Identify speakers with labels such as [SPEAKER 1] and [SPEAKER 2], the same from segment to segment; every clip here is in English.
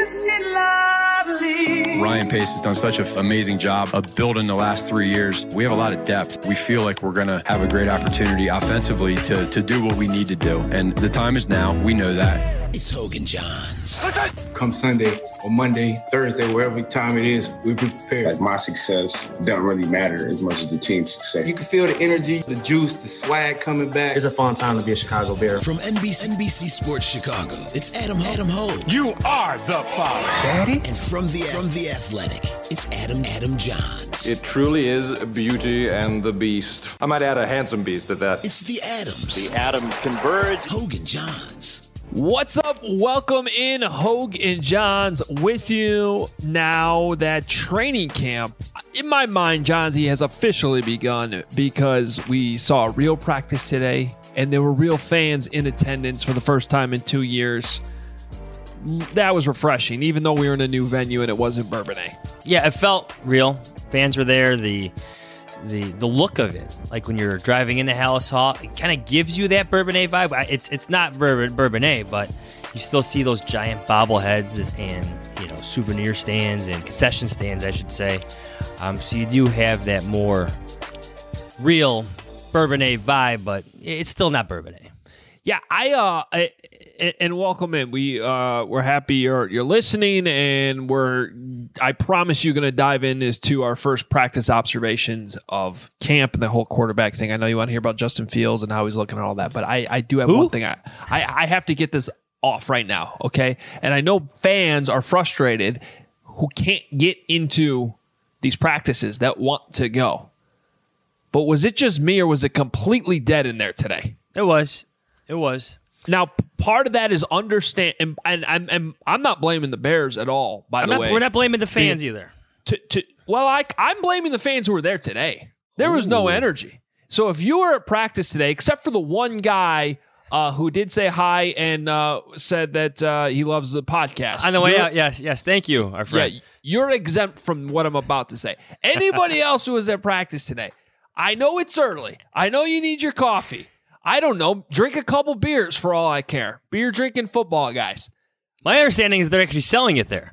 [SPEAKER 1] Ryan Pace has done such an amazing job of building the last 3 years. We have a lot of depth. We feel like we're going to have a great opportunity offensively to do what we need to do. And the time is now. We know that.
[SPEAKER 2] It's Hoge and Johns.
[SPEAKER 3] Come Sunday or Monday, Thursday, wherever time it is, we'll be prepared.
[SPEAKER 4] Like, my success doesn't really matter as much as the team's success.
[SPEAKER 3] You can feel the energy, the juice, the swag coming back.
[SPEAKER 5] It's a fun time to be a Chicago Bear.
[SPEAKER 2] From NBC Sports Chicago, it's Adam Hoge.
[SPEAKER 6] You are the father.
[SPEAKER 2] Daddy? And from the Athletic, it's Adam Johns.
[SPEAKER 7] It truly is Beauty and the Beast. I might add a handsome beast at that.
[SPEAKER 2] It's the Adams.
[SPEAKER 6] The Adams converge.
[SPEAKER 2] Hoge and Johns.
[SPEAKER 8] What's up? Welcome in, Hoge and Johns with you now that training camp, in my mind, Johnsy, has officially begun because we saw a real practice today and there were real fans in attendance for the first time in 2 years. That was refreshing, even though we were in a new venue and it wasn't Bourbonnais.
[SPEAKER 9] Yeah, it felt real. Fans were there. The look of it, like when you're driving into Halas Hall, it kind of gives you that Bourbonnais vibe. It's not Bourbonnais, but you still see those giant bobbleheads and souvenir stands and concession stands, I should say. So you do have that more real Bourbonnais vibe, but it's still not Bourbonnais.
[SPEAKER 8] Yeah, and welcome in. We're happy you're listening, and I promise you going to dive into our first practice observations of camp and the whole quarterback thing. I know you want to hear about Justin Fields and how he's looking and all that, but I do have one thing. I have to get this off right now, okay? And I know fans are frustrated who can't get into these practices that want to go. But was it just me, or was it completely dead in there today?
[SPEAKER 9] It was.
[SPEAKER 8] Now, part of that is understand, and I'm not blaming the Bears at all. By the way,
[SPEAKER 9] we're not blaming the fans either.
[SPEAKER 8] I'm blaming the fans who were there today. There was no energy. So if you were at practice today, except for the one guy who did say hi and said that he loves the podcast
[SPEAKER 9] on the way out, yes, thank you, our friend.
[SPEAKER 8] Yeah, you're exempt from what I'm about to say. Anybody else who was at practice today, I know it's early. I know you need your coffee. I don't know. Drink a couple beers for all I care. Beer drinking football guys.
[SPEAKER 9] My understanding is they're actually selling it there.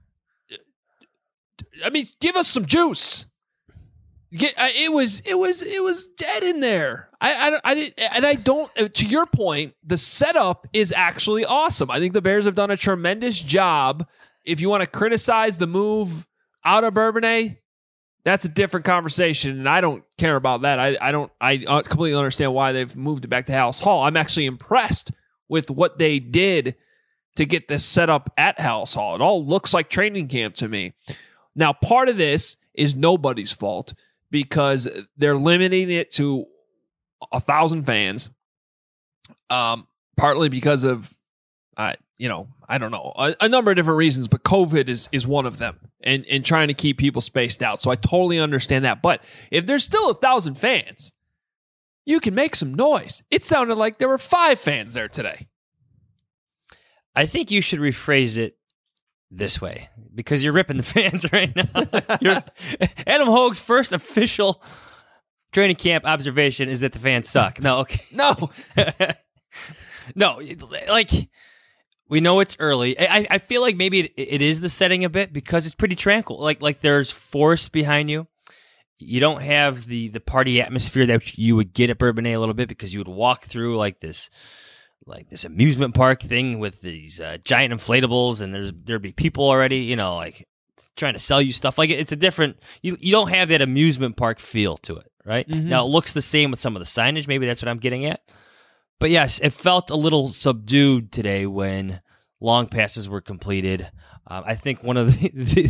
[SPEAKER 8] I mean, give us some juice. It was dead in there. I don't. To your point, the setup is actually awesome. I think the Bears have done a tremendous job. If you want to criticize the move out of Bourbonnais, that's a different conversation, and I don't care about that. I completely understand why they've moved it back to Halas Hall. I'm actually impressed with what they did to get this set up at Halas Hall. It all looks like training camp to me. Now, part of this is nobody's fault because they're limiting it to 1,000 fans, partly because of I don't know, a number of different reasons, but COVID is one of them, and trying to keep people spaced out. So I totally understand that. But if there's still 1,000 fans, you can make some noise. It sounded like there were 5 fans there today.
[SPEAKER 9] I think you should rephrase it this way, because you're ripping the fans right now. Adam Hoge's first official training camp observation is that the fans suck. No, okay.
[SPEAKER 8] No.
[SPEAKER 9] No, like... We know it's early. I feel like maybe it is the setting a bit because it's pretty tranquil. Like there's forest behind you. You don't have the party atmosphere that you would get at Bourbonnais a little bit because you would walk through like this amusement park thing with these giant inflatables, and there'd be people already, like trying to sell you stuff. Like it's a different. You don't have that amusement park feel to it, right? Mm-hmm. Now it looks the same with some of the signage. Maybe that's what I'm getting at. But yes, it felt a little subdued today when long passes were completed. I think one of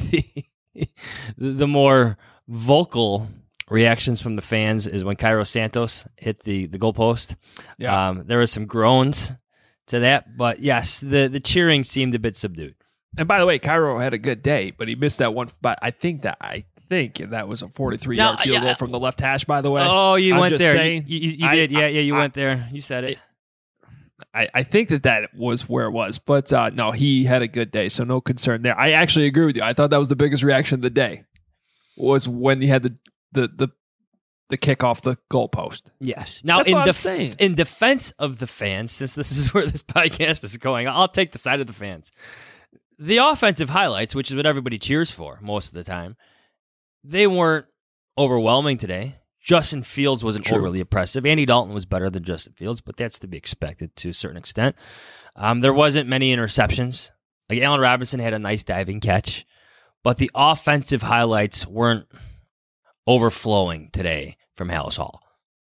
[SPEAKER 9] the more vocal reactions from the fans is when Cairo Santos hit the goalpost. Yeah. There was some groans to that, but yes, the cheering seemed a bit subdued.
[SPEAKER 8] And by the way, Cairo had a good day, but he missed that one. But I think that was a 43-yard field goal from the left hash, by the way.
[SPEAKER 9] Oh, you
[SPEAKER 8] I'm
[SPEAKER 9] went
[SPEAKER 8] just
[SPEAKER 9] there.
[SPEAKER 8] Saying,
[SPEAKER 9] you did. Yeah, you went there. You said it.
[SPEAKER 8] I think that was where it was. But no, he had a good day, so no concern there. I actually agree with you. I thought that was the biggest reaction of the day, was when he had the kick off the goalpost.
[SPEAKER 9] Yes. Now, in defense of the fans, since this is where this podcast is going, I'll take the side of the fans. The offensive highlights, which is what everybody cheers for most of the time, they weren't overwhelming today. Justin Fields wasn't overly impressive. Andy Dalton was better than Justin Fields, but that's to be expected to a certain extent. There wasn't many interceptions. Like Allen Robinson had a nice diving catch, but the offensive highlights weren't overflowing today from Hallis Hall.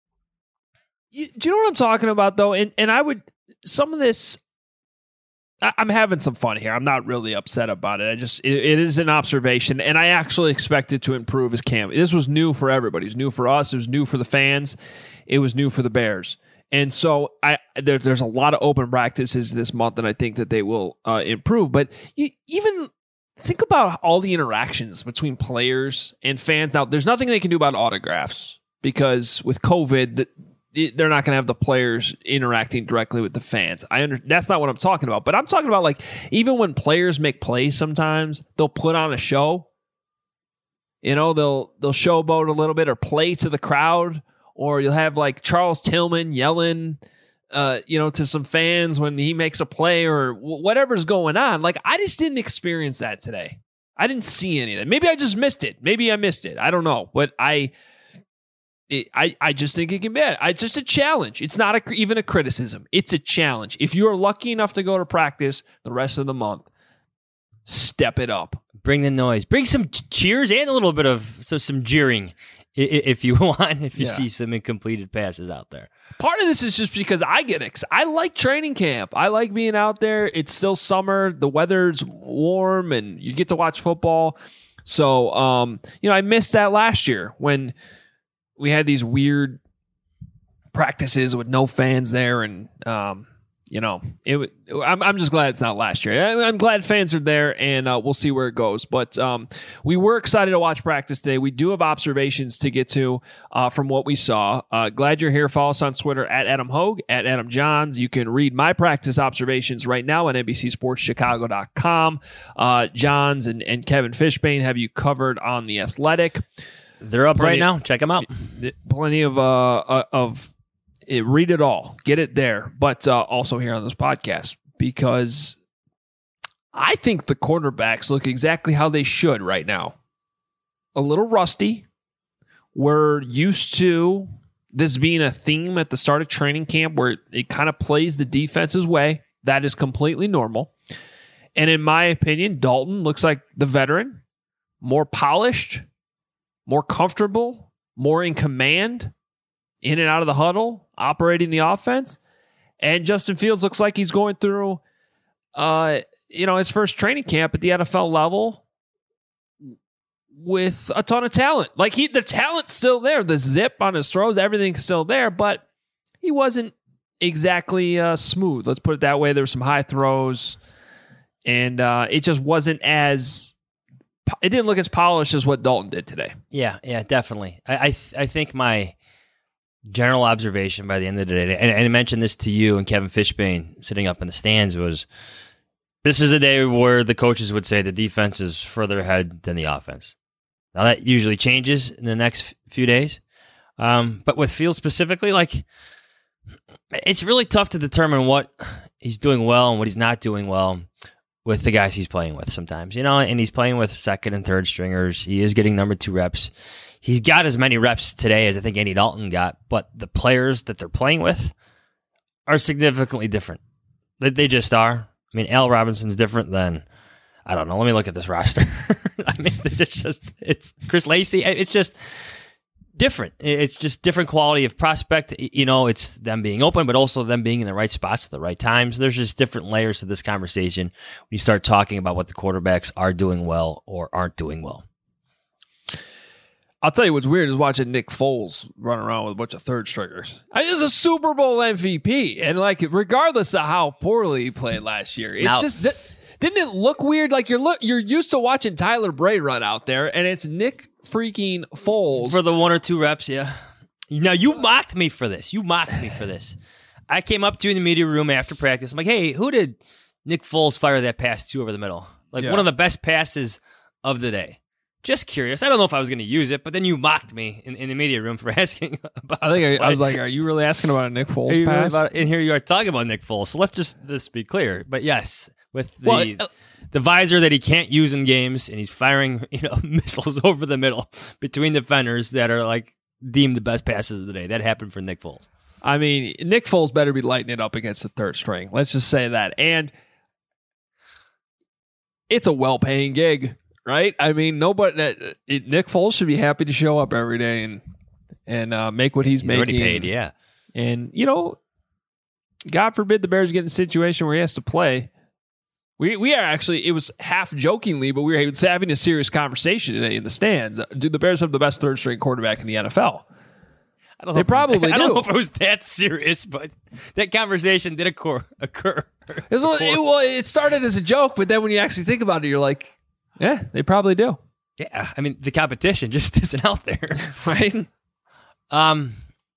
[SPEAKER 8] Do you know what I'm talking about, though? And I would, some of this, I'm having some fun here. I'm not really upset about it. It is an observation, and I actually expect it to improve as camp. This was new for everybody. It was new for us. It was new for the fans. It was new for the Bears. And so there's a lot of open practices this month, and I think that they will improve. But even think about all the interactions between players and fans. Now, there's nothing they can do about autographs because with COVID, they're not going to have the players interacting directly with the fans. That's not what I'm talking about. But I'm talking about, like, even when players make plays sometimes, they'll put on a show. You know, they'll showboat a little bit or play to the crowd. Or you'll have, like, Charles Tillman yelling, to some fans when he makes a play or whatever's going on. Like, I just didn't experience that today. I didn't see any of that. Maybe I just missed it. Maybe I missed it. I don't know. But I just think it can be. It's just a challenge. It's not even a criticism. It's a challenge. If you are lucky enough to go to practice the rest of the month, step it up.
[SPEAKER 9] Bring the noise. Bring some cheers and a little bit of some jeering if you want, if you see some incompleted passes out there.
[SPEAKER 8] Part of this is just because I like training camp. I like being out there. It's still summer. The weather's warm, and you get to watch football. So, I missed that last year when we had these weird practices with no fans there, and I'm just glad it's not last year. I'm glad fans are there, and we'll see where it goes. But we were excited to watch practice today. We do have observations to get to from what we saw. Glad you're here. Follow us on Twitter at Adam Hogue, at Adam Johns. You can read my practice observations right now at NBCSportsChicago.com. Johns and Kevin Fishbane have you covered on The Athletic.
[SPEAKER 9] They're up right now. Check them out.
[SPEAKER 8] Plenty of read it all. Get it there. But also here on this podcast, because I think the quarterbacks look exactly how they should right now. A little rusty. We're used to this being a theme at the start of training camp where it kind of plays the defense's way. That is completely normal. And in my opinion, Dalton looks like the veteran, more polished, more comfortable, more in command, in and out of the huddle, operating the offense. And Justin Fields looks like he's going through, his first training camp at the NFL level with a ton of talent. Like the talent's still there. The zip on his throws, everything's still there, but he wasn't exactly smooth. Let's put it that way. There were some high throws, and it just wasn't it didn't look as polished as what Dalton did today.
[SPEAKER 9] Yeah, definitely. I think my general observation by the end of the day, and I mentioned this to you and Kevin Fishbane sitting up in the stands, was this is a day where the coaches would say the defense is further ahead than the offense. Now that usually changes in the next few days. But with Fields specifically, like, it's really tough to determine what he's doing well and what he's not doing well with the guys he's playing with sometimes, and he's playing with second and third stringers. He is getting number 2 reps. He's got as many reps today as I think Andy Dalton got, but the players that they're playing with are significantly different. They just are. I mean, Al Robinson's different than, I don't know, let me look at this roster. I mean, it's Chris Lacey. It's just different. It's just different quality of prospect. It's them being open, but also them being in the right spots at the right times. There's just different layers to this conversation when you start talking about what the quarterbacks are doing well or aren't doing well.
[SPEAKER 8] I'll tell you what's weird is watching Nick Foles run around with a bunch of third stringers. He was a Super Bowl MVP, and regardless of how poorly he played last year, didn't it look weird? Like you're used to watching Tyler Bray run out there, and it's Nick freaking Foles
[SPEAKER 9] for the 1 or 2 reps. Yeah. Now you mocked me for this. I came up to you in the media room after practice. I'm like, hey, who did Nick Foles fire that pass to over the middle? One of the best passes of the day. Just curious. I don't know if I was going to use it, but then you mocked me in the media room for asking about it.
[SPEAKER 8] I was like, are you really asking about a Nick Foles pass?
[SPEAKER 9] And here you are talking about Nick Foles. So let's be clear. But yes, with the visor that he can't use in games, and he's firing missiles over the middle between defenders that are like deemed the best passes of the day. That happened for Nick Foles.
[SPEAKER 8] I mean, Nick Foles better be lighting it up against the third string. Let's just say that. And it's a well-paying gig, right? I mean, Nick Foles should be happy to show up every day and make what he's making.
[SPEAKER 9] Already paid, yeah.
[SPEAKER 8] And, God forbid the Bears get in a situation where he has to play. We are actually, it was half jokingly, but we were having a serious conversation today in the stands. Do the Bears have the best third string quarterback in the NFL? They probably do.
[SPEAKER 9] I don't know if it was that serious, but that conversation did occur.
[SPEAKER 8] It started as a joke, but then when you actually think about it, you're like, yeah, they probably do.
[SPEAKER 9] Yeah, I mean, the competition just isn't out there.
[SPEAKER 8] Right?
[SPEAKER 9] Can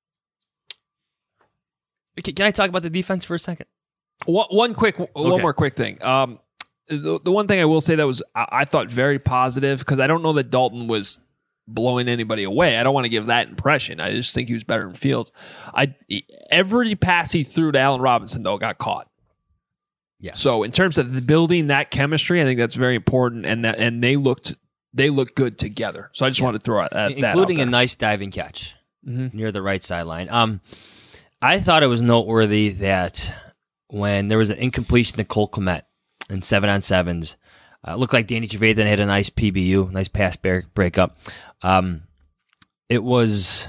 [SPEAKER 9] I talk about the defense for a second?
[SPEAKER 8] One more quick thing. The one thing I will say that was I thought very positive, because I don't know that Dalton was blowing anybody away. I don't want to give that impression. I just think he was better in field. Every pass he threw to Allen Robinson, though, got caught.
[SPEAKER 9] Yeah.
[SPEAKER 8] So in terms of building that chemistry, I think that's very important, and they looked good together. So I just wanted to throw that
[SPEAKER 9] including
[SPEAKER 8] out there.
[SPEAKER 9] A nice diving catch near the right sideline. I thought it was noteworthy that when there was an incompletion to Cole Kmet in 7-on-7s, it looked like Danny Trevathan had a nice PBU, nice pass breakup. It was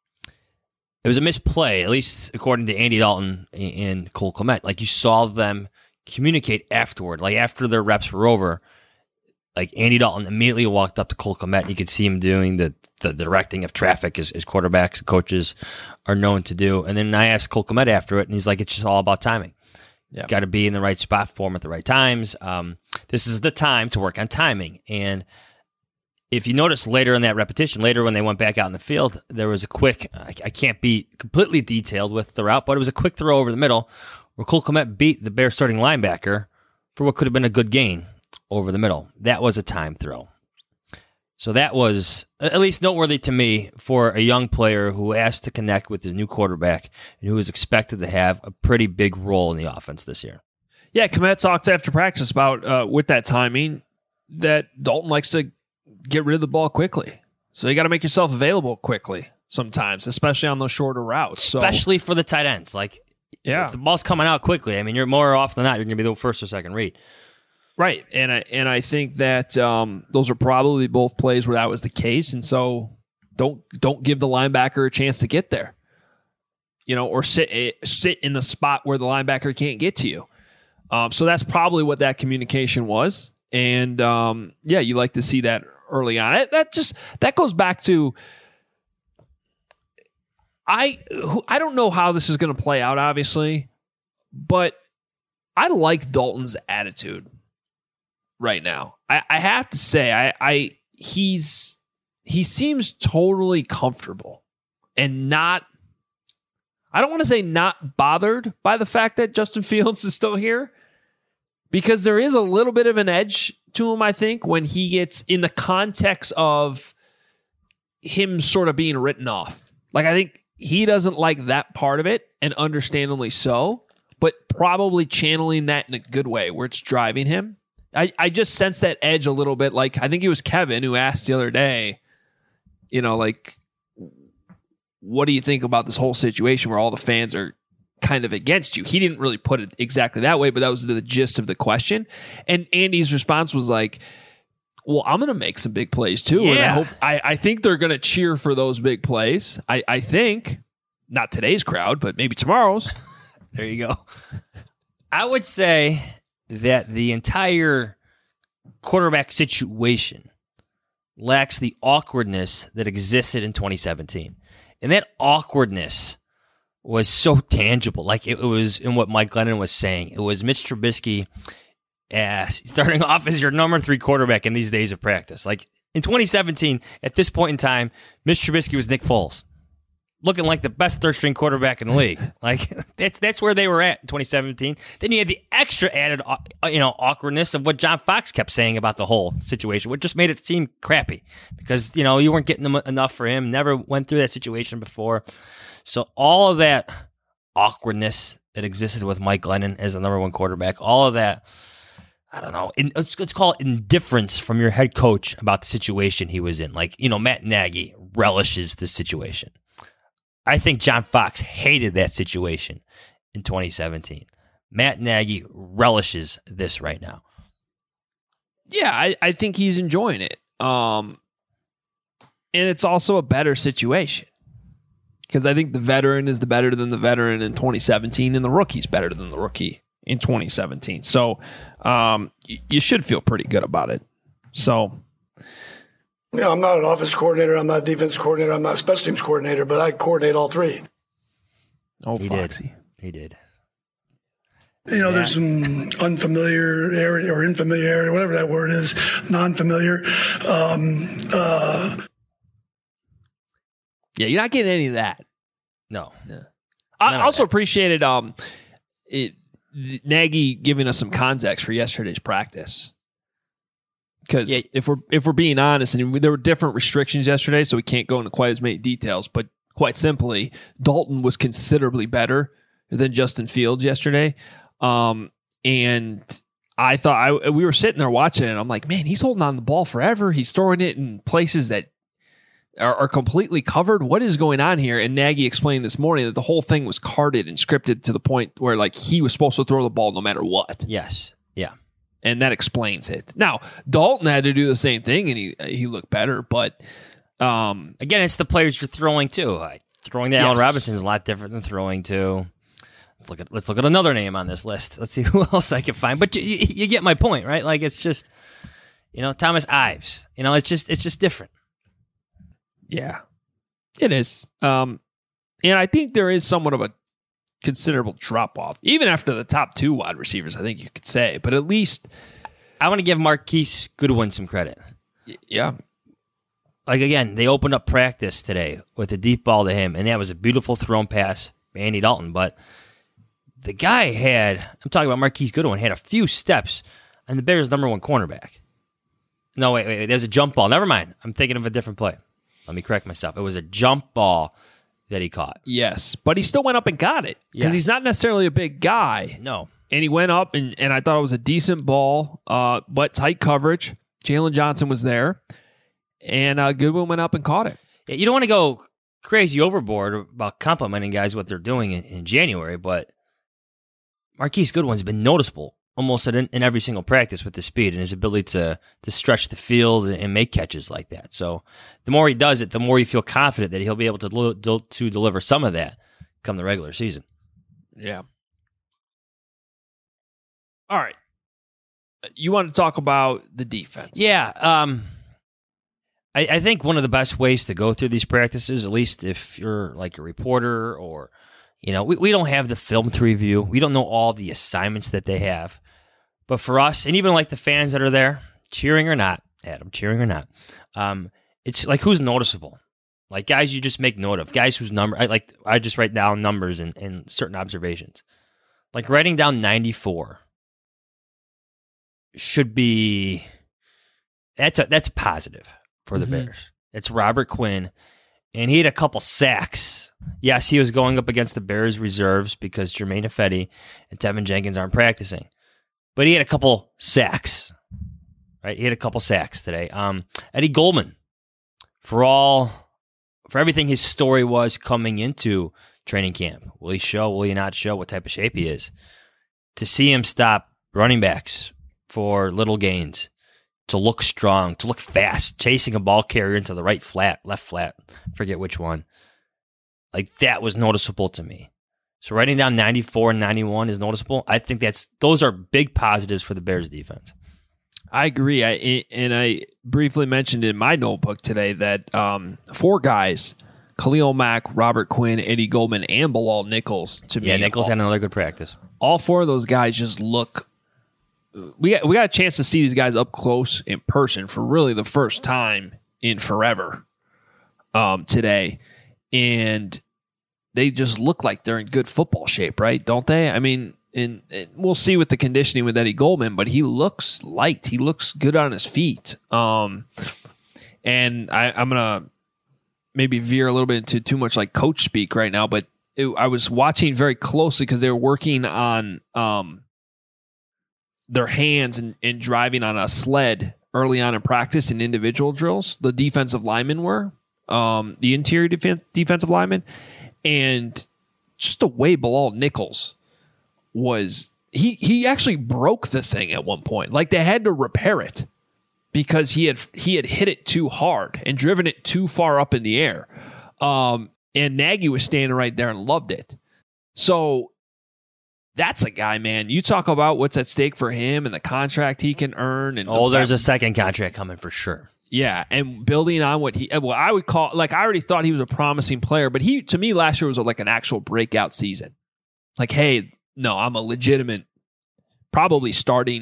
[SPEAKER 9] a misplay, at least according to Andy Dalton and Cole Kmet. Like, you saw them communicate afterward. Like, after their reps were over, like, Andy Dalton immediately walked up to Cole Kmet, and you could see him doing the directing of traffic as quarterbacks and coaches are known to do. And then I asked Cole Kmet after it, and he's like, it's just all about timing. Yeah. Got to be in the right spot for him at the right times. This is the time to work on timing. And if you notice later in that repetition, later when they went back out in the field, there was a quick, I can't be completely detailed with the route, but it was a quick throw over the middle where Cole Kmet beat the Bears starting linebacker for what could have been a good gain over the middle. That was a time throw. So that was at least noteworthy to me for a young player who asked to connect with his new quarterback and who was expected to have a pretty big role in the offense this year.
[SPEAKER 8] Yeah, Kmet talked after practice about, with that timing, that Dalton likes to get rid of the ball quickly. So you got to make yourself available quickly sometimes, especially on those shorter routes.
[SPEAKER 9] Especially for the tight ends. Like, if the ball's coming out quickly, I mean, you're more often than not, you're going to be the first or second read.
[SPEAKER 8] Right, and I think that those are probably both plays where that was the case, and so don't give the linebacker a chance to get there, or sit in the spot where the linebacker can't get to you. So that's probably what that communication was, and you like to see that early on. That goes back to I don't know how this is going to play out, obviously, but I like Dalton's attitude right now. I have to say, he seems totally comfortable and not, I don't want to say not bothered by the fact that Justin Fields is still here, because there is a little bit of an edge to him, I think, when he gets in the context of him sort of being written off. Like, I think he doesn't like that part of it, and understandably so, but probably channeling that in a good way where it's driving him. I just sense that edge a little bit. Like, I think it was Kevin who asked the other day, what do you think about this whole situation where all the fans are kind of against you? He didn't really put it exactly that way, but that was the gist of the question. And Andy's response was like, well, I'm going to make some big plays too.
[SPEAKER 9] Yeah.
[SPEAKER 8] And I think they're going to cheer for those big plays. I think, not today's crowd, but maybe tomorrow's.
[SPEAKER 9] There you go. I would say that the entire quarterback situation lacks the awkwardness that existed in 2017. And that awkwardness was so tangible. Like, it was in what Mike Glennon was saying. It was Mitch Trubisky starting off as your number 3 quarterback in these days of practice. Like, in 2017, at this point in time, Mitch Trubisky was Nick Foles, looking like the best third-string quarterback in the league. Like, that's where they were at in 2017. Then you had the extra added, awkwardness of what John Fox kept saying about the whole situation, which just made it seem crappy because, you weren't getting enough for him, never went through that situation before. So all of that awkwardness that existed with Mike Glennon as the number 1 quarterback, all of that I don't know, let's call it indifference from your head coach about the situation he was in. Like, Matt Nagy relishes the situation. I think John Fox hated that situation in 2017. Matt Nagy relishes this right now.
[SPEAKER 8] Yeah, I think he's enjoying it. And it's also a better situation. Because I think the veteran is better than the veteran in 2017, and the rookie's better than the rookie in 2017. So you should feel pretty good about it. So,
[SPEAKER 10] I'm not an offense coordinator. I'm not a defense coordinator. I'm not a special teams coordinator, but I coordinate all three.
[SPEAKER 8] Oh,
[SPEAKER 9] he
[SPEAKER 8] Foxy.
[SPEAKER 9] He did.
[SPEAKER 10] There's some unfamiliarity or infamiliarity, whatever that word is, non-familiar.
[SPEAKER 8] Yeah, you're not getting any of that.
[SPEAKER 9] No.
[SPEAKER 8] I also appreciated Nagy giving us some context for yesterday's practice. Because if we're being honest, and there were different restrictions yesterday, so we can't go into quite as many details, but quite simply, Dalton was considerably better than Justin Fields yesterday. And I thought we were sitting there watching it, and I'm like, man, he's holding on to the ball forever. He's throwing it in places that are completely covered. What is going on here? And Nagy explained this morning that the whole thing was carded and scripted to the point where he was supposed to throw the ball no matter what.
[SPEAKER 9] Yes. Yeah.
[SPEAKER 8] And that explains it. Now, Dalton had to do the same thing, and he looked better. But
[SPEAKER 9] again, it's the players you're throwing to. Throwing to Allen Robinson is a lot different than throwing to. Let's look at another name on this list. Let's see who else I can find. But you get my point, right? It's just Thomas Ives. It's just different.
[SPEAKER 8] Yeah, it is. And I think there is somewhat of a considerable drop-off, even after the top two wide receivers, I think you could say. But at least
[SPEAKER 9] I want to give Marquise Goodwin some credit.
[SPEAKER 8] Yeah.
[SPEAKER 9] Again, they opened up practice today with a deep ball to him, and that was a beautiful thrown pass by Andy Dalton. But the guy I'm talking about Marquise Goodwin, had a few steps on the Bears' number one cornerback. No, wait, there's a jump ball. Never mind. I'm thinking of a different play. Let me correct myself. It was a jump ball that he caught.
[SPEAKER 8] Yes, but he still went up and got it because he's not necessarily a big guy.
[SPEAKER 9] No.
[SPEAKER 8] And he went up, and I thought it was a decent ball, but tight coverage. Jalen Johnson was there, and Goodwin went up and caught it.
[SPEAKER 9] Yeah, you don't want to go crazy overboard about complimenting guys what they're doing in January, but Marquise Goodwin's been noticeable almost in every single practice with the speed and his ability to stretch the field and make catches like that. So the more he does it, the more you feel confident that he'll be able to deliver some of that come the regular season.
[SPEAKER 8] Yeah. All right. You want to talk about the defense?
[SPEAKER 9] Yeah. I think one of the best ways to go through these practices, at least if you're like a reporter or, we don't have the film to review. We don't know all the assignments that they have. But for us, and even like the fans that are there, cheering or not, Adam, cheering or not, it's like who's noticeable. Like guys you just make note of. Guys whose number, I just write down numbers and certain observations. Like writing down 94 should be, that's positive for the Bears. It's Robert Quinn, and he had a couple sacks. Yes, he was going up against the Bears reserves because Jermaine Ifedi and Tevin Jenkins aren't practicing. But he had a couple sacks, right? He had a couple sacks today. Eddie Goldman, for everything his story was coming into training camp. Will he show? Will he not show? What type of shape he is? To see him stop running backs for little gains, to look strong, to look fast, chasing a ball carrier into the right flat, left flat, forget which one. Like that was noticeable to me. So writing down 94 and 91 is noticeable. I think those are big positives for the Bears defense.
[SPEAKER 8] I agree. I briefly mentioned in my notebook today that 4 guys, Khalil Mack, Robert Quinn, Eddie Goldman, and Bilal Nichols.
[SPEAKER 9] Yeah, Nichols had another good practice.
[SPEAKER 8] All 4 of those guys just look. We got a chance to see these guys up close in person for really the first time in forever today, and they just look like they're in good football shape, right? Don't they? I mean, and we'll see with the conditioning with Eddie Goldman, but he looks light. He looks good on his feet. And I'm gonna maybe veer a little bit into too much like coach speak right now, but I was watching very closely because they were working on their hands and driving on a sled early on in practice in individual drills. The defensive linemen were, the interior defensive linemen, and just the way Bilal Nichols was, he actually broke the thing at one point. Like they had to repair it because he had hit it too hard and driven it too far up in the air. And Nagy was standing right there and loved it. So that's a guy, man. You talk about what's at stake for him and the contract he can earn. And
[SPEAKER 9] there's a second contract coming for sure.
[SPEAKER 8] Yeah, and building on what I would call, like, I already thought he was a promising player, but to me, last year was like an actual breakout season. Like, hey, no, I'm a legitimate, definitely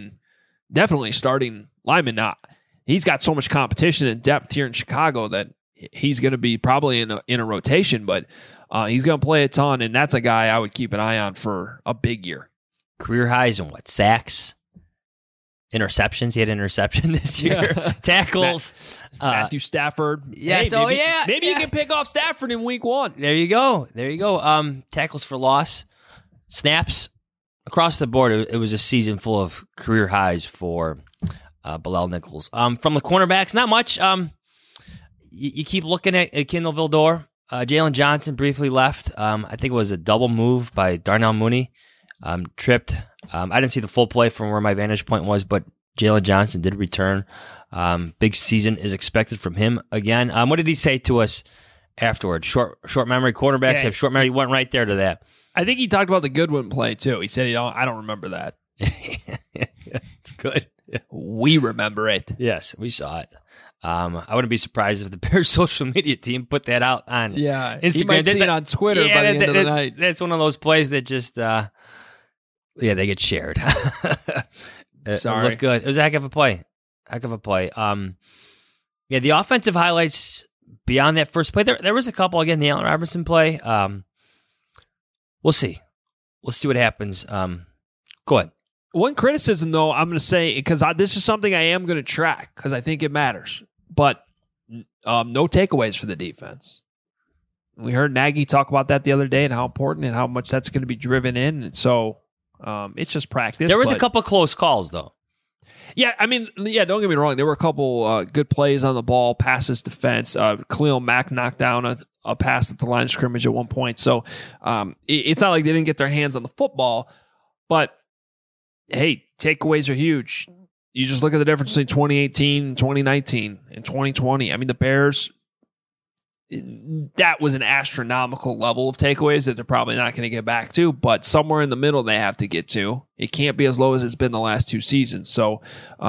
[SPEAKER 8] starting lineman. Now, he's got so much competition and depth here in Chicago that he's going to be probably in a rotation, but he's going to play a ton, and that's a guy I would keep an eye on for a big year.
[SPEAKER 9] Career highs in what? Sacks? Interceptions? He had an interception this year.
[SPEAKER 8] Yeah.
[SPEAKER 9] Tackles.
[SPEAKER 8] Matthew Stafford.
[SPEAKER 9] Yeah,
[SPEAKER 8] Maybe you can pick off Stafford in week 1.
[SPEAKER 9] There you go. Tackles for loss. Snaps. Across the board, it was a season full of career highs for Bilal Nichols. From the cornerbacks, not much. You keep looking at Kendall Vildor. Jalen Johnson briefly left. I think it was a double move by Darnell Mooney. Tripped. I didn't see the full play from where my vantage point was, but Jalen Johnson did return. Big season is expected from him again. What did he say to us afterwards? Short memory. Quarterbacks have short memory. He went right there to that.
[SPEAKER 8] I think he talked about the Goodwin play, too. He said, I don't remember that.
[SPEAKER 9] It's good.
[SPEAKER 8] We remember it.
[SPEAKER 9] Yes, we saw it. I wouldn't be surprised if the Bears social media team put that out on Instagram.
[SPEAKER 8] He might see it on Twitter by the end of the night.
[SPEAKER 9] That's one of those plays that just, they get shared.
[SPEAKER 8] Sorry.
[SPEAKER 9] It looked good. It was a heck of a play. The offensive highlights beyond that first play, there was a couple. Again, the Allen Robinson play. We'll see. We'll see what happens. Go ahead.
[SPEAKER 8] One criticism, though, I'm going to say, because this is something I am going to track because I think it matters, but no takeaways for the defense. We heard Nagy talk about that the other day and how important and how much that's going to be driven in. And so it's just practice.
[SPEAKER 9] There was a couple close calls, though.
[SPEAKER 8] Yeah, I mean, don't get me wrong. There were a couple good plays on the ball, passes, defense. Khalil Mack knocked down a pass at the line of scrimmage at one point. So it's not like they didn't get their hands on the football, but hey, takeaways are huge. You just look at the difference between 2018, 2019, and 2020. I mean, the Bears, that was an astronomical level of takeaways that they're probably not going to get back to, but somewhere in the middle they have to get to. It can't be as low as it's been the last 2 seasons. So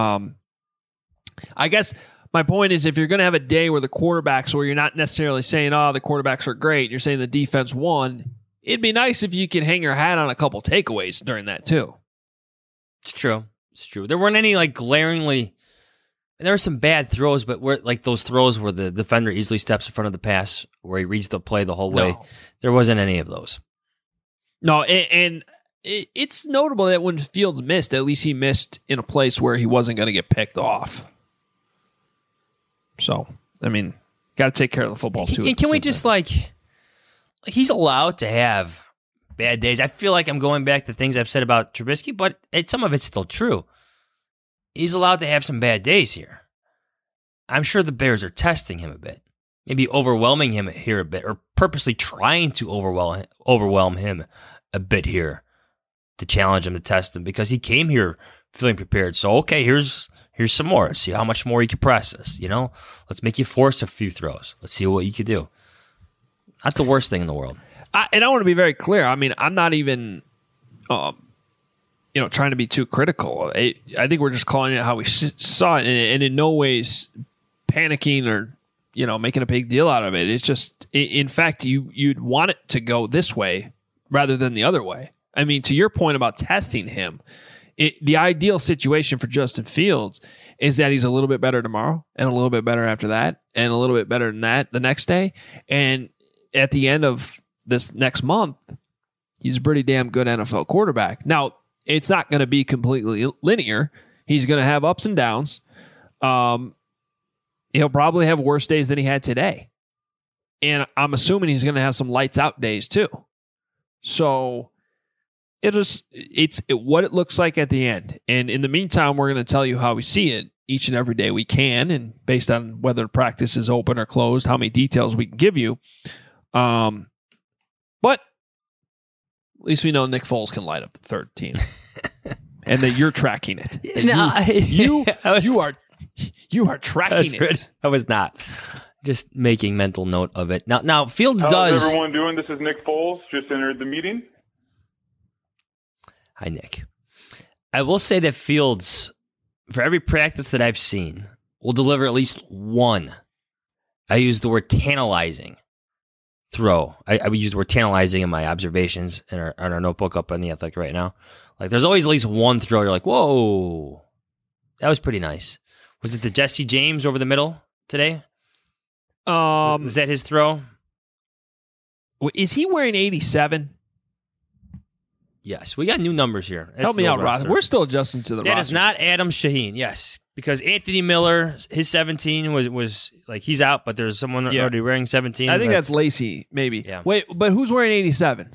[SPEAKER 8] I guess my point is, if you're going to have a day where the quarterbacks, where you're not necessarily saying, the quarterbacks are great, you're saying the defense won, it'd be nice if you could hang your hat on a couple takeaways during that too.
[SPEAKER 9] It's true. There weren't any glaringly. There were some bad throws, but those throws where the defender easily steps in front of the pass, where he reads the play the whole way.
[SPEAKER 8] No.
[SPEAKER 9] There wasn't any of those.
[SPEAKER 8] No, and it's notable that when Fields missed, at least he missed in a place where he wasn't going to get picked off. So, I mean, got to take care of the football too.
[SPEAKER 9] And can we just he's allowed to have bad days. I feel like I'm going back to things I've said about Trubisky, but some of it's still true. He's allowed to have some bad days here. I'm sure the Bears are testing him a bit, maybe overwhelming him here a bit, or purposely trying to overwhelm him a bit here to challenge him, to test him, because he came here feeling prepared. So, okay, here's some more. Let's see how much more you can press us. Let's make you force a few throws. Let's see what you can do. Not the worst thing in the world.
[SPEAKER 8] And I want to be very clear. I mean, I'm not even, trying to be too critical. I think we're just calling it how we saw it, and in no ways panicking or, making a big deal out of it. It's just, in fact, you'd want it to go this way rather than the other way. I mean, to your point about testing him, the ideal situation for Justin Fields is that he's a little bit better tomorrow and a little bit better after that and a little bit better than that the next day. And at the end of this next month, he's a pretty damn good NFL quarterback. Now, it's not going to be completely linear. He's going to have ups and downs. He'll probably have worse days than he had today. And I'm assuming he's going to have some lights out days too. So it's what it looks like at the end. And in the meantime, we're going to tell you how we see it each and every day we can, and based on whether practice is open or closed, how many details we can give you. But at least we know Nick Foles can light up the third team, and that you're tracking it. You are tracking it.
[SPEAKER 9] I was not. Just making mental note of it. Now Fields
[SPEAKER 11] How's
[SPEAKER 9] does.
[SPEAKER 11] everyone doing? This is Nick Foles. Just entered the meeting.
[SPEAKER 9] Hi, Nick. I will say that Fields, for every practice that I've seen, will deliver at least one. I use the word tantalizing throw. I would use the word tantalizing in my observations in our notebook up on the Athletic right now. Like, there's always at least one throw. You're like, whoa, that was pretty nice. Was it the Jesse James over the middle today? Was that his throw?
[SPEAKER 8] Is he wearing 87?
[SPEAKER 9] Yes, we got new numbers here. That's
[SPEAKER 8] Help me out, Ross. We're still adjusting to the roster.
[SPEAKER 9] That is not Adam Shaheen, yes. Because Anthony Miller, his 17 was like, he's out, but there's someone already wearing 17.
[SPEAKER 8] I think that's Lacey, maybe.
[SPEAKER 9] Yeah.
[SPEAKER 8] Wait, but who's wearing 87?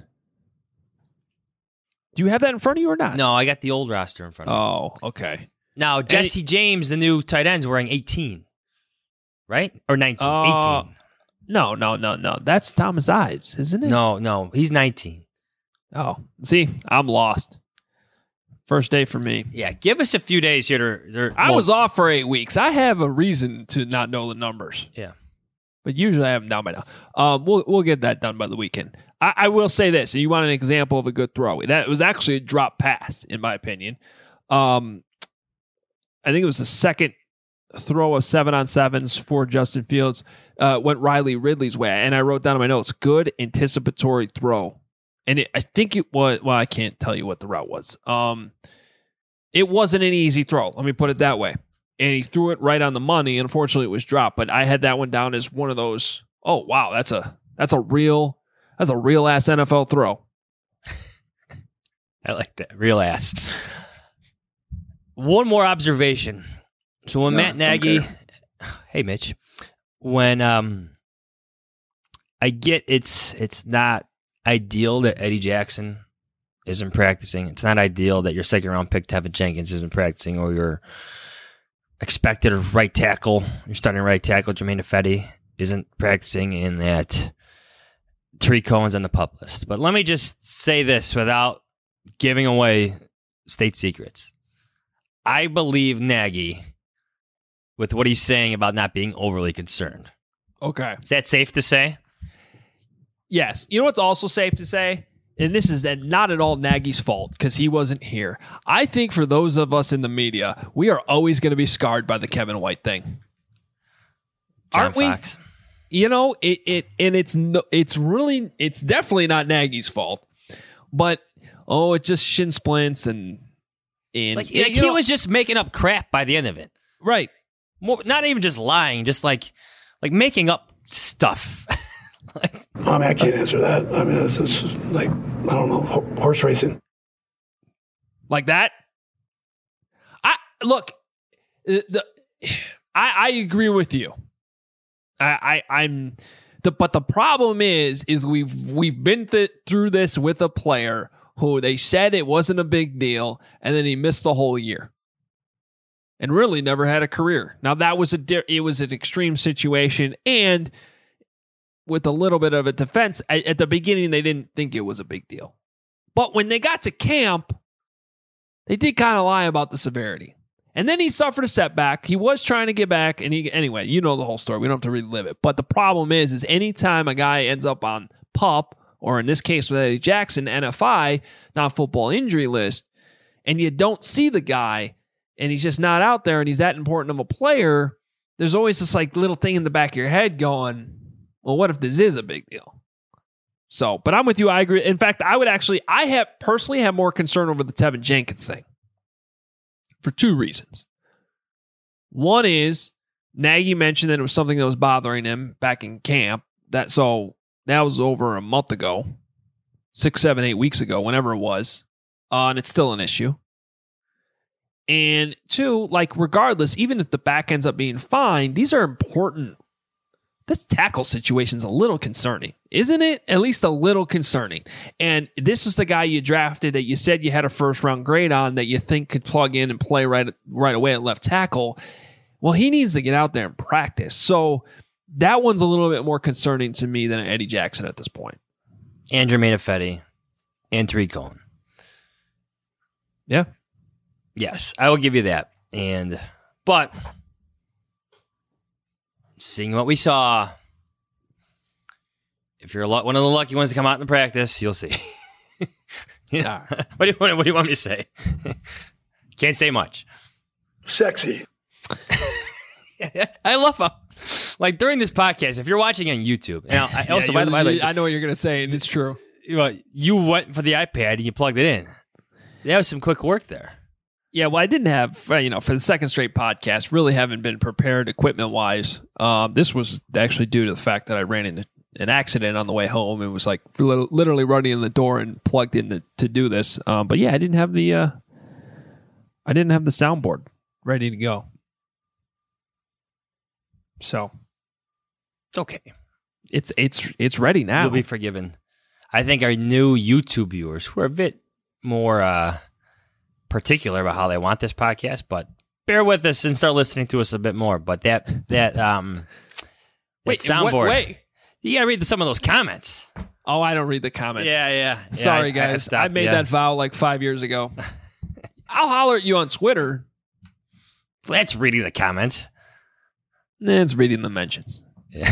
[SPEAKER 8] Do you have that in front of you or not?
[SPEAKER 9] No, I got the old roster in front of me.
[SPEAKER 8] Oh, okay.
[SPEAKER 9] Now, Jesse James, the new tight end, is wearing 18. Right? Or 19. 18.
[SPEAKER 8] No. That's Thomas Ives, isn't it?
[SPEAKER 9] No. He's 19.
[SPEAKER 8] Oh, see, I'm lost. First day for me.
[SPEAKER 9] Yeah, give us a few days here.
[SPEAKER 8] I was off for 8 weeks. I have a reason to not know the numbers.
[SPEAKER 9] Yeah.
[SPEAKER 8] But usually I have them down by now. We'll get that done by the weekend. I will say this. You want an example of a good throw. That was actually a drop pass, in my opinion. I think it was the second throw of 7-on-7s for Justin Fields. Went Riley Ridley's way. And I wrote down in my notes, good anticipatory throw. And I think it was, well, I can't tell you what the route was. It wasn't an easy throw. Let me put it that way. And he threw it right on the money. Unfortunately, it was dropped. But I had that one down as one of those, oh, wow, that's a real ass NFL throw.
[SPEAKER 9] I like that. Real ass. One more observation. So when Matt Nagy, hey, Mitch, when I get it's not ideal that Eddie Jackson isn't practicing. It's not ideal that your second-round pick, Tevin Jenkins, isn't practicing, or your expected right tackle, your starting right tackle, Jermaine Ifedi, isn't practicing, and that Tariq Cohen's on the PUP list. But let me just say this without giving away state secrets. I believe Nagy with what he's saying about not being overly concerned.
[SPEAKER 8] Okay.
[SPEAKER 9] Is that safe to say?
[SPEAKER 8] Yes. You know what's also safe to say? And this is not at all Nagy's fault because he wasn't here. I think for those of us in the media, we are always going to be scarred by the Kevin White thing. Aren't we?
[SPEAKER 9] Fox.
[SPEAKER 8] You know, it's definitely not Nagy's fault. But it's just shin splints and
[SPEAKER 9] he was just making up crap by the end of it.
[SPEAKER 8] Right.
[SPEAKER 9] Not even just lying, just like making up stuff.
[SPEAKER 10] I can't answer that. I mean, it's like, I don't know, horse racing.
[SPEAKER 8] Like that? I agree with you. But the problem is we've been through this with a player who they said it wasn't a big deal, and then he missed the whole year, and really never had a career. Now that was it was an extreme situation, and with a little bit of a defense, at the beginning they didn't think it was a big deal, but when they got to camp, they did kind of lie about the severity. And then he suffered a setback. He was trying to get back, and anyway, you know the whole story. We don't have to relive it. But the problem is anytime a guy ends up on PUP, or in this case with Eddie Jackson, NFI, non-football injury list, and you don't see the guy, and he's just not out there, and he's that important of a player, there's always this like little thing in the back of your head going, well, what if this is a big deal? So, but I'm with you. I agree. In fact, I personally have more concern over the Tevin Jenkins thing. For two reasons. One is Nagy mentioned that it was something that was bothering him back in camp. That was over a month ago, 6, 7, 8 weeks ago, whenever it was, and it's still an issue. And two, like regardless, even if the back ends up being fine, these are important this tackle situation's a little concerning, isn't it? At least a little concerning. And this is the guy you drafted that you said you had a first-round grade on that you think could plug in and play right away at left tackle. Well, he needs to get out there and practice. So that one's a little bit more concerning to me than Eddie Jackson at this point.
[SPEAKER 9] And Jermaine Ifedi and Tariq Cohen.
[SPEAKER 8] Yeah.
[SPEAKER 9] Yes, I will give you that. But seeing what we saw, if you're one of the lucky ones to come out in practice, you'll see. Yeah. What do you want me to say? Can't say much.
[SPEAKER 10] Sexy.
[SPEAKER 9] I love him. Like during this podcast, if you're watching on YouTube, now I also by the way,
[SPEAKER 8] I know what you're going to say, and it's true.
[SPEAKER 9] You went for the iPad and you plugged it in. That was some quick work there.
[SPEAKER 8] Yeah, well, I didn't have, for the second straight podcast, really haven't been prepared equipment-wise. This was actually due to the fact that I ran into an accident on the way home. It was like literally running in the door and plugged in to do this. But yeah, I didn't have the soundboard ready to go. So
[SPEAKER 9] it's okay.
[SPEAKER 8] It's ready now.
[SPEAKER 9] You'll be forgiven. I think our new YouTube viewers who are a bit more particular about how they want this podcast, but bear with us and start listening to us a bit more. But that soundboard.
[SPEAKER 8] Wait.
[SPEAKER 9] You gotta read some of those comments.
[SPEAKER 8] Oh, I don't read the comments.
[SPEAKER 9] Yeah.
[SPEAKER 8] Sorry, guys. I made that vow like 5 years ago. I'll holler at you on Twitter.
[SPEAKER 9] That's reading the comments.
[SPEAKER 8] It's reading the mentions.
[SPEAKER 9] Yeah.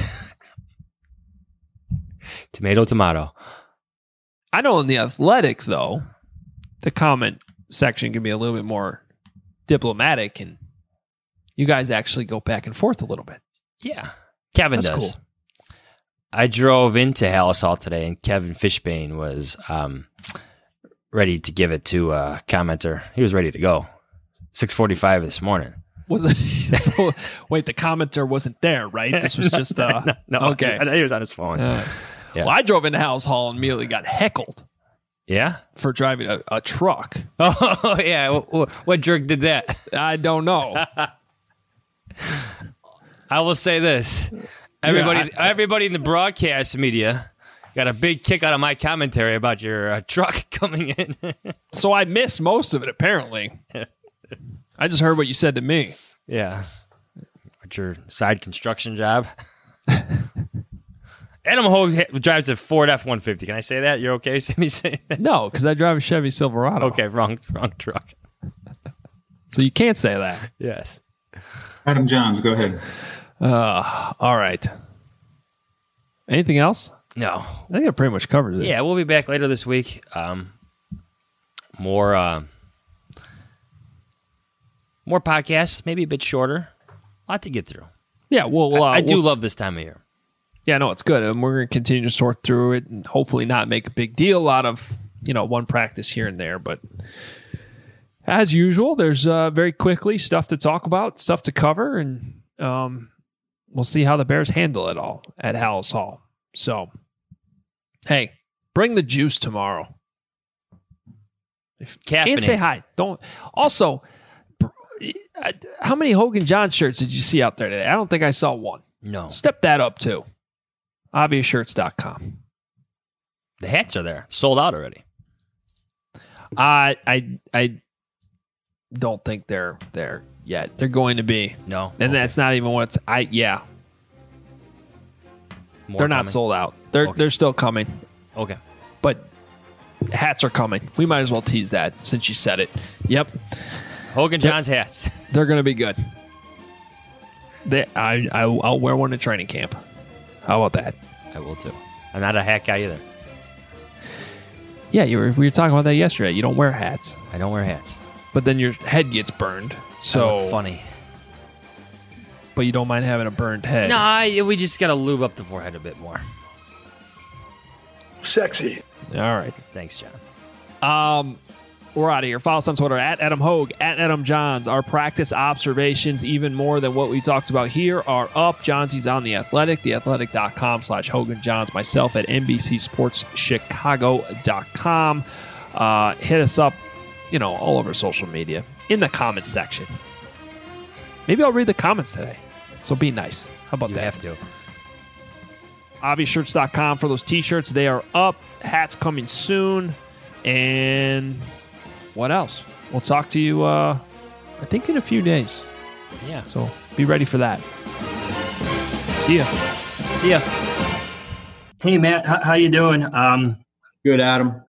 [SPEAKER 9] Tomato.
[SPEAKER 8] I know in The Athletic, though, the comment section can be a little bit more diplomatic, and you guys actually go back and forth a little bit.
[SPEAKER 9] Yeah. Kevin
[SPEAKER 8] That's
[SPEAKER 9] does.
[SPEAKER 8] Cool.
[SPEAKER 9] I drove into Halas Hall today, and Kevin Fishbane was ready to give it to a commenter. He was ready to go. 6:45 this morning.
[SPEAKER 8] Was it? So, wait, the commenter wasn't there, right? This was just
[SPEAKER 9] no.
[SPEAKER 8] Okay.
[SPEAKER 9] He was on his phone.
[SPEAKER 8] Yeah. Well, I drove into Halas Hall and immediately got heckled.
[SPEAKER 9] Yeah?
[SPEAKER 8] For driving a truck.
[SPEAKER 9] Oh, yeah. What jerk did that?
[SPEAKER 8] I don't know.
[SPEAKER 9] I will say this. Everybody in the broadcast media got a big kick out of my commentary about your truck coming in.
[SPEAKER 8] So I missed most of it, apparently. I just heard what you said to me.
[SPEAKER 9] Yeah. What's your side construction job? Adam Hogue drives a Ford F-150. Can I say that? You're okay? Me saying that?
[SPEAKER 8] No, because I drive a Chevy Silverado.
[SPEAKER 9] Okay, wrong truck.
[SPEAKER 8] So you can't say that.
[SPEAKER 9] Yes.
[SPEAKER 12] Adam Johns, go ahead.
[SPEAKER 8] All right. Anything else?
[SPEAKER 9] No.
[SPEAKER 8] I think it pretty much covers it.
[SPEAKER 9] Yeah, we'll be back later this week. More podcasts, maybe a bit shorter. A lot to get through.
[SPEAKER 8] Yeah,
[SPEAKER 9] I do love this time of year.
[SPEAKER 8] Yeah, no, it's good. And we're going to continue to sort through it and hopefully not make a big deal out of, one practice here and there. But as usual, there's very quickly stuff to talk about, stuff to cover, and we'll see how the Bears handle it all at Halas Hall. So, hey, bring the juice tomorrow.
[SPEAKER 9] Caffeinate.
[SPEAKER 8] And say hi. Don't. Also, how many Hogan John shirts did you see out there today? I don't think I saw one.
[SPEAKER 9] No.
[SPEAKER 8] Step that up too. ObviousShirts.com.
[SPEAKER 9] The hats are there, sold out already.
[SPEAKER 8] I don't think they're there yet. They're going to be.
[SPEAKER 9] No,
[SPEAKER 8] and that's not even what it's. They're
[SPEAKER 9] coming.
[SPEAKER 8] Not sold out. They're still coming.
[SPEAKER 9] Okay,
[SPEAKER 8] but hats are coming. We might as well tease that since you said it. Yep.
[SPEAKER 9] Hogan John's hats.
[SPEAKER 8] They're going to be good. I'll wear one at training camp. How about that?
[SPEAKER 9] I will too. I'm not a hat guy either.
[SPEAKER 8] Yeah, we were talking about that yesterday. You don't wear hats.
[SPEAKER 9] I don't wear hats.
[SPEAKER 8] But then your head gets burned. So
[SPEAKER 9] I look funny.
[SPEAKER 8] But you don't mind having a burned head.
[SPEAKER 9] No, we just got to lube up the forehead a bit more.
[SPEAKER 10] Sexy.
[SPEAKER 8] All right.
[SPEAKER 9] Thanks, John.
[SPEAKER 8] We're out of here. Follow us on Twitter at Adam Hogue, at Adam Johns. Our practice observations, even more than what we talked about here, are up. Johnsy's on The Athletic, theathletic.com/Hogan Johns. Myself at NBCSportsChicago.com. Hit us up, all over social media, in the comments section. Maybe I'll read the comments today. So be nice. How about that?
[SPEAKER 9] You have to.
[SPEAKER 8] obviousshirts.com for those t-shirts. They are up. Hats coming soon. And what else? We'll talk to you, I think, in a few days.
[SPEAKER 9] Yeah.
[SPEAKER 8] So be ready for that. See ya.
[SPEAKER 9] See ya.
[SPEAKER 5] Hey, Matt, how you doing?
[SPEAKER 13] Good, Adam.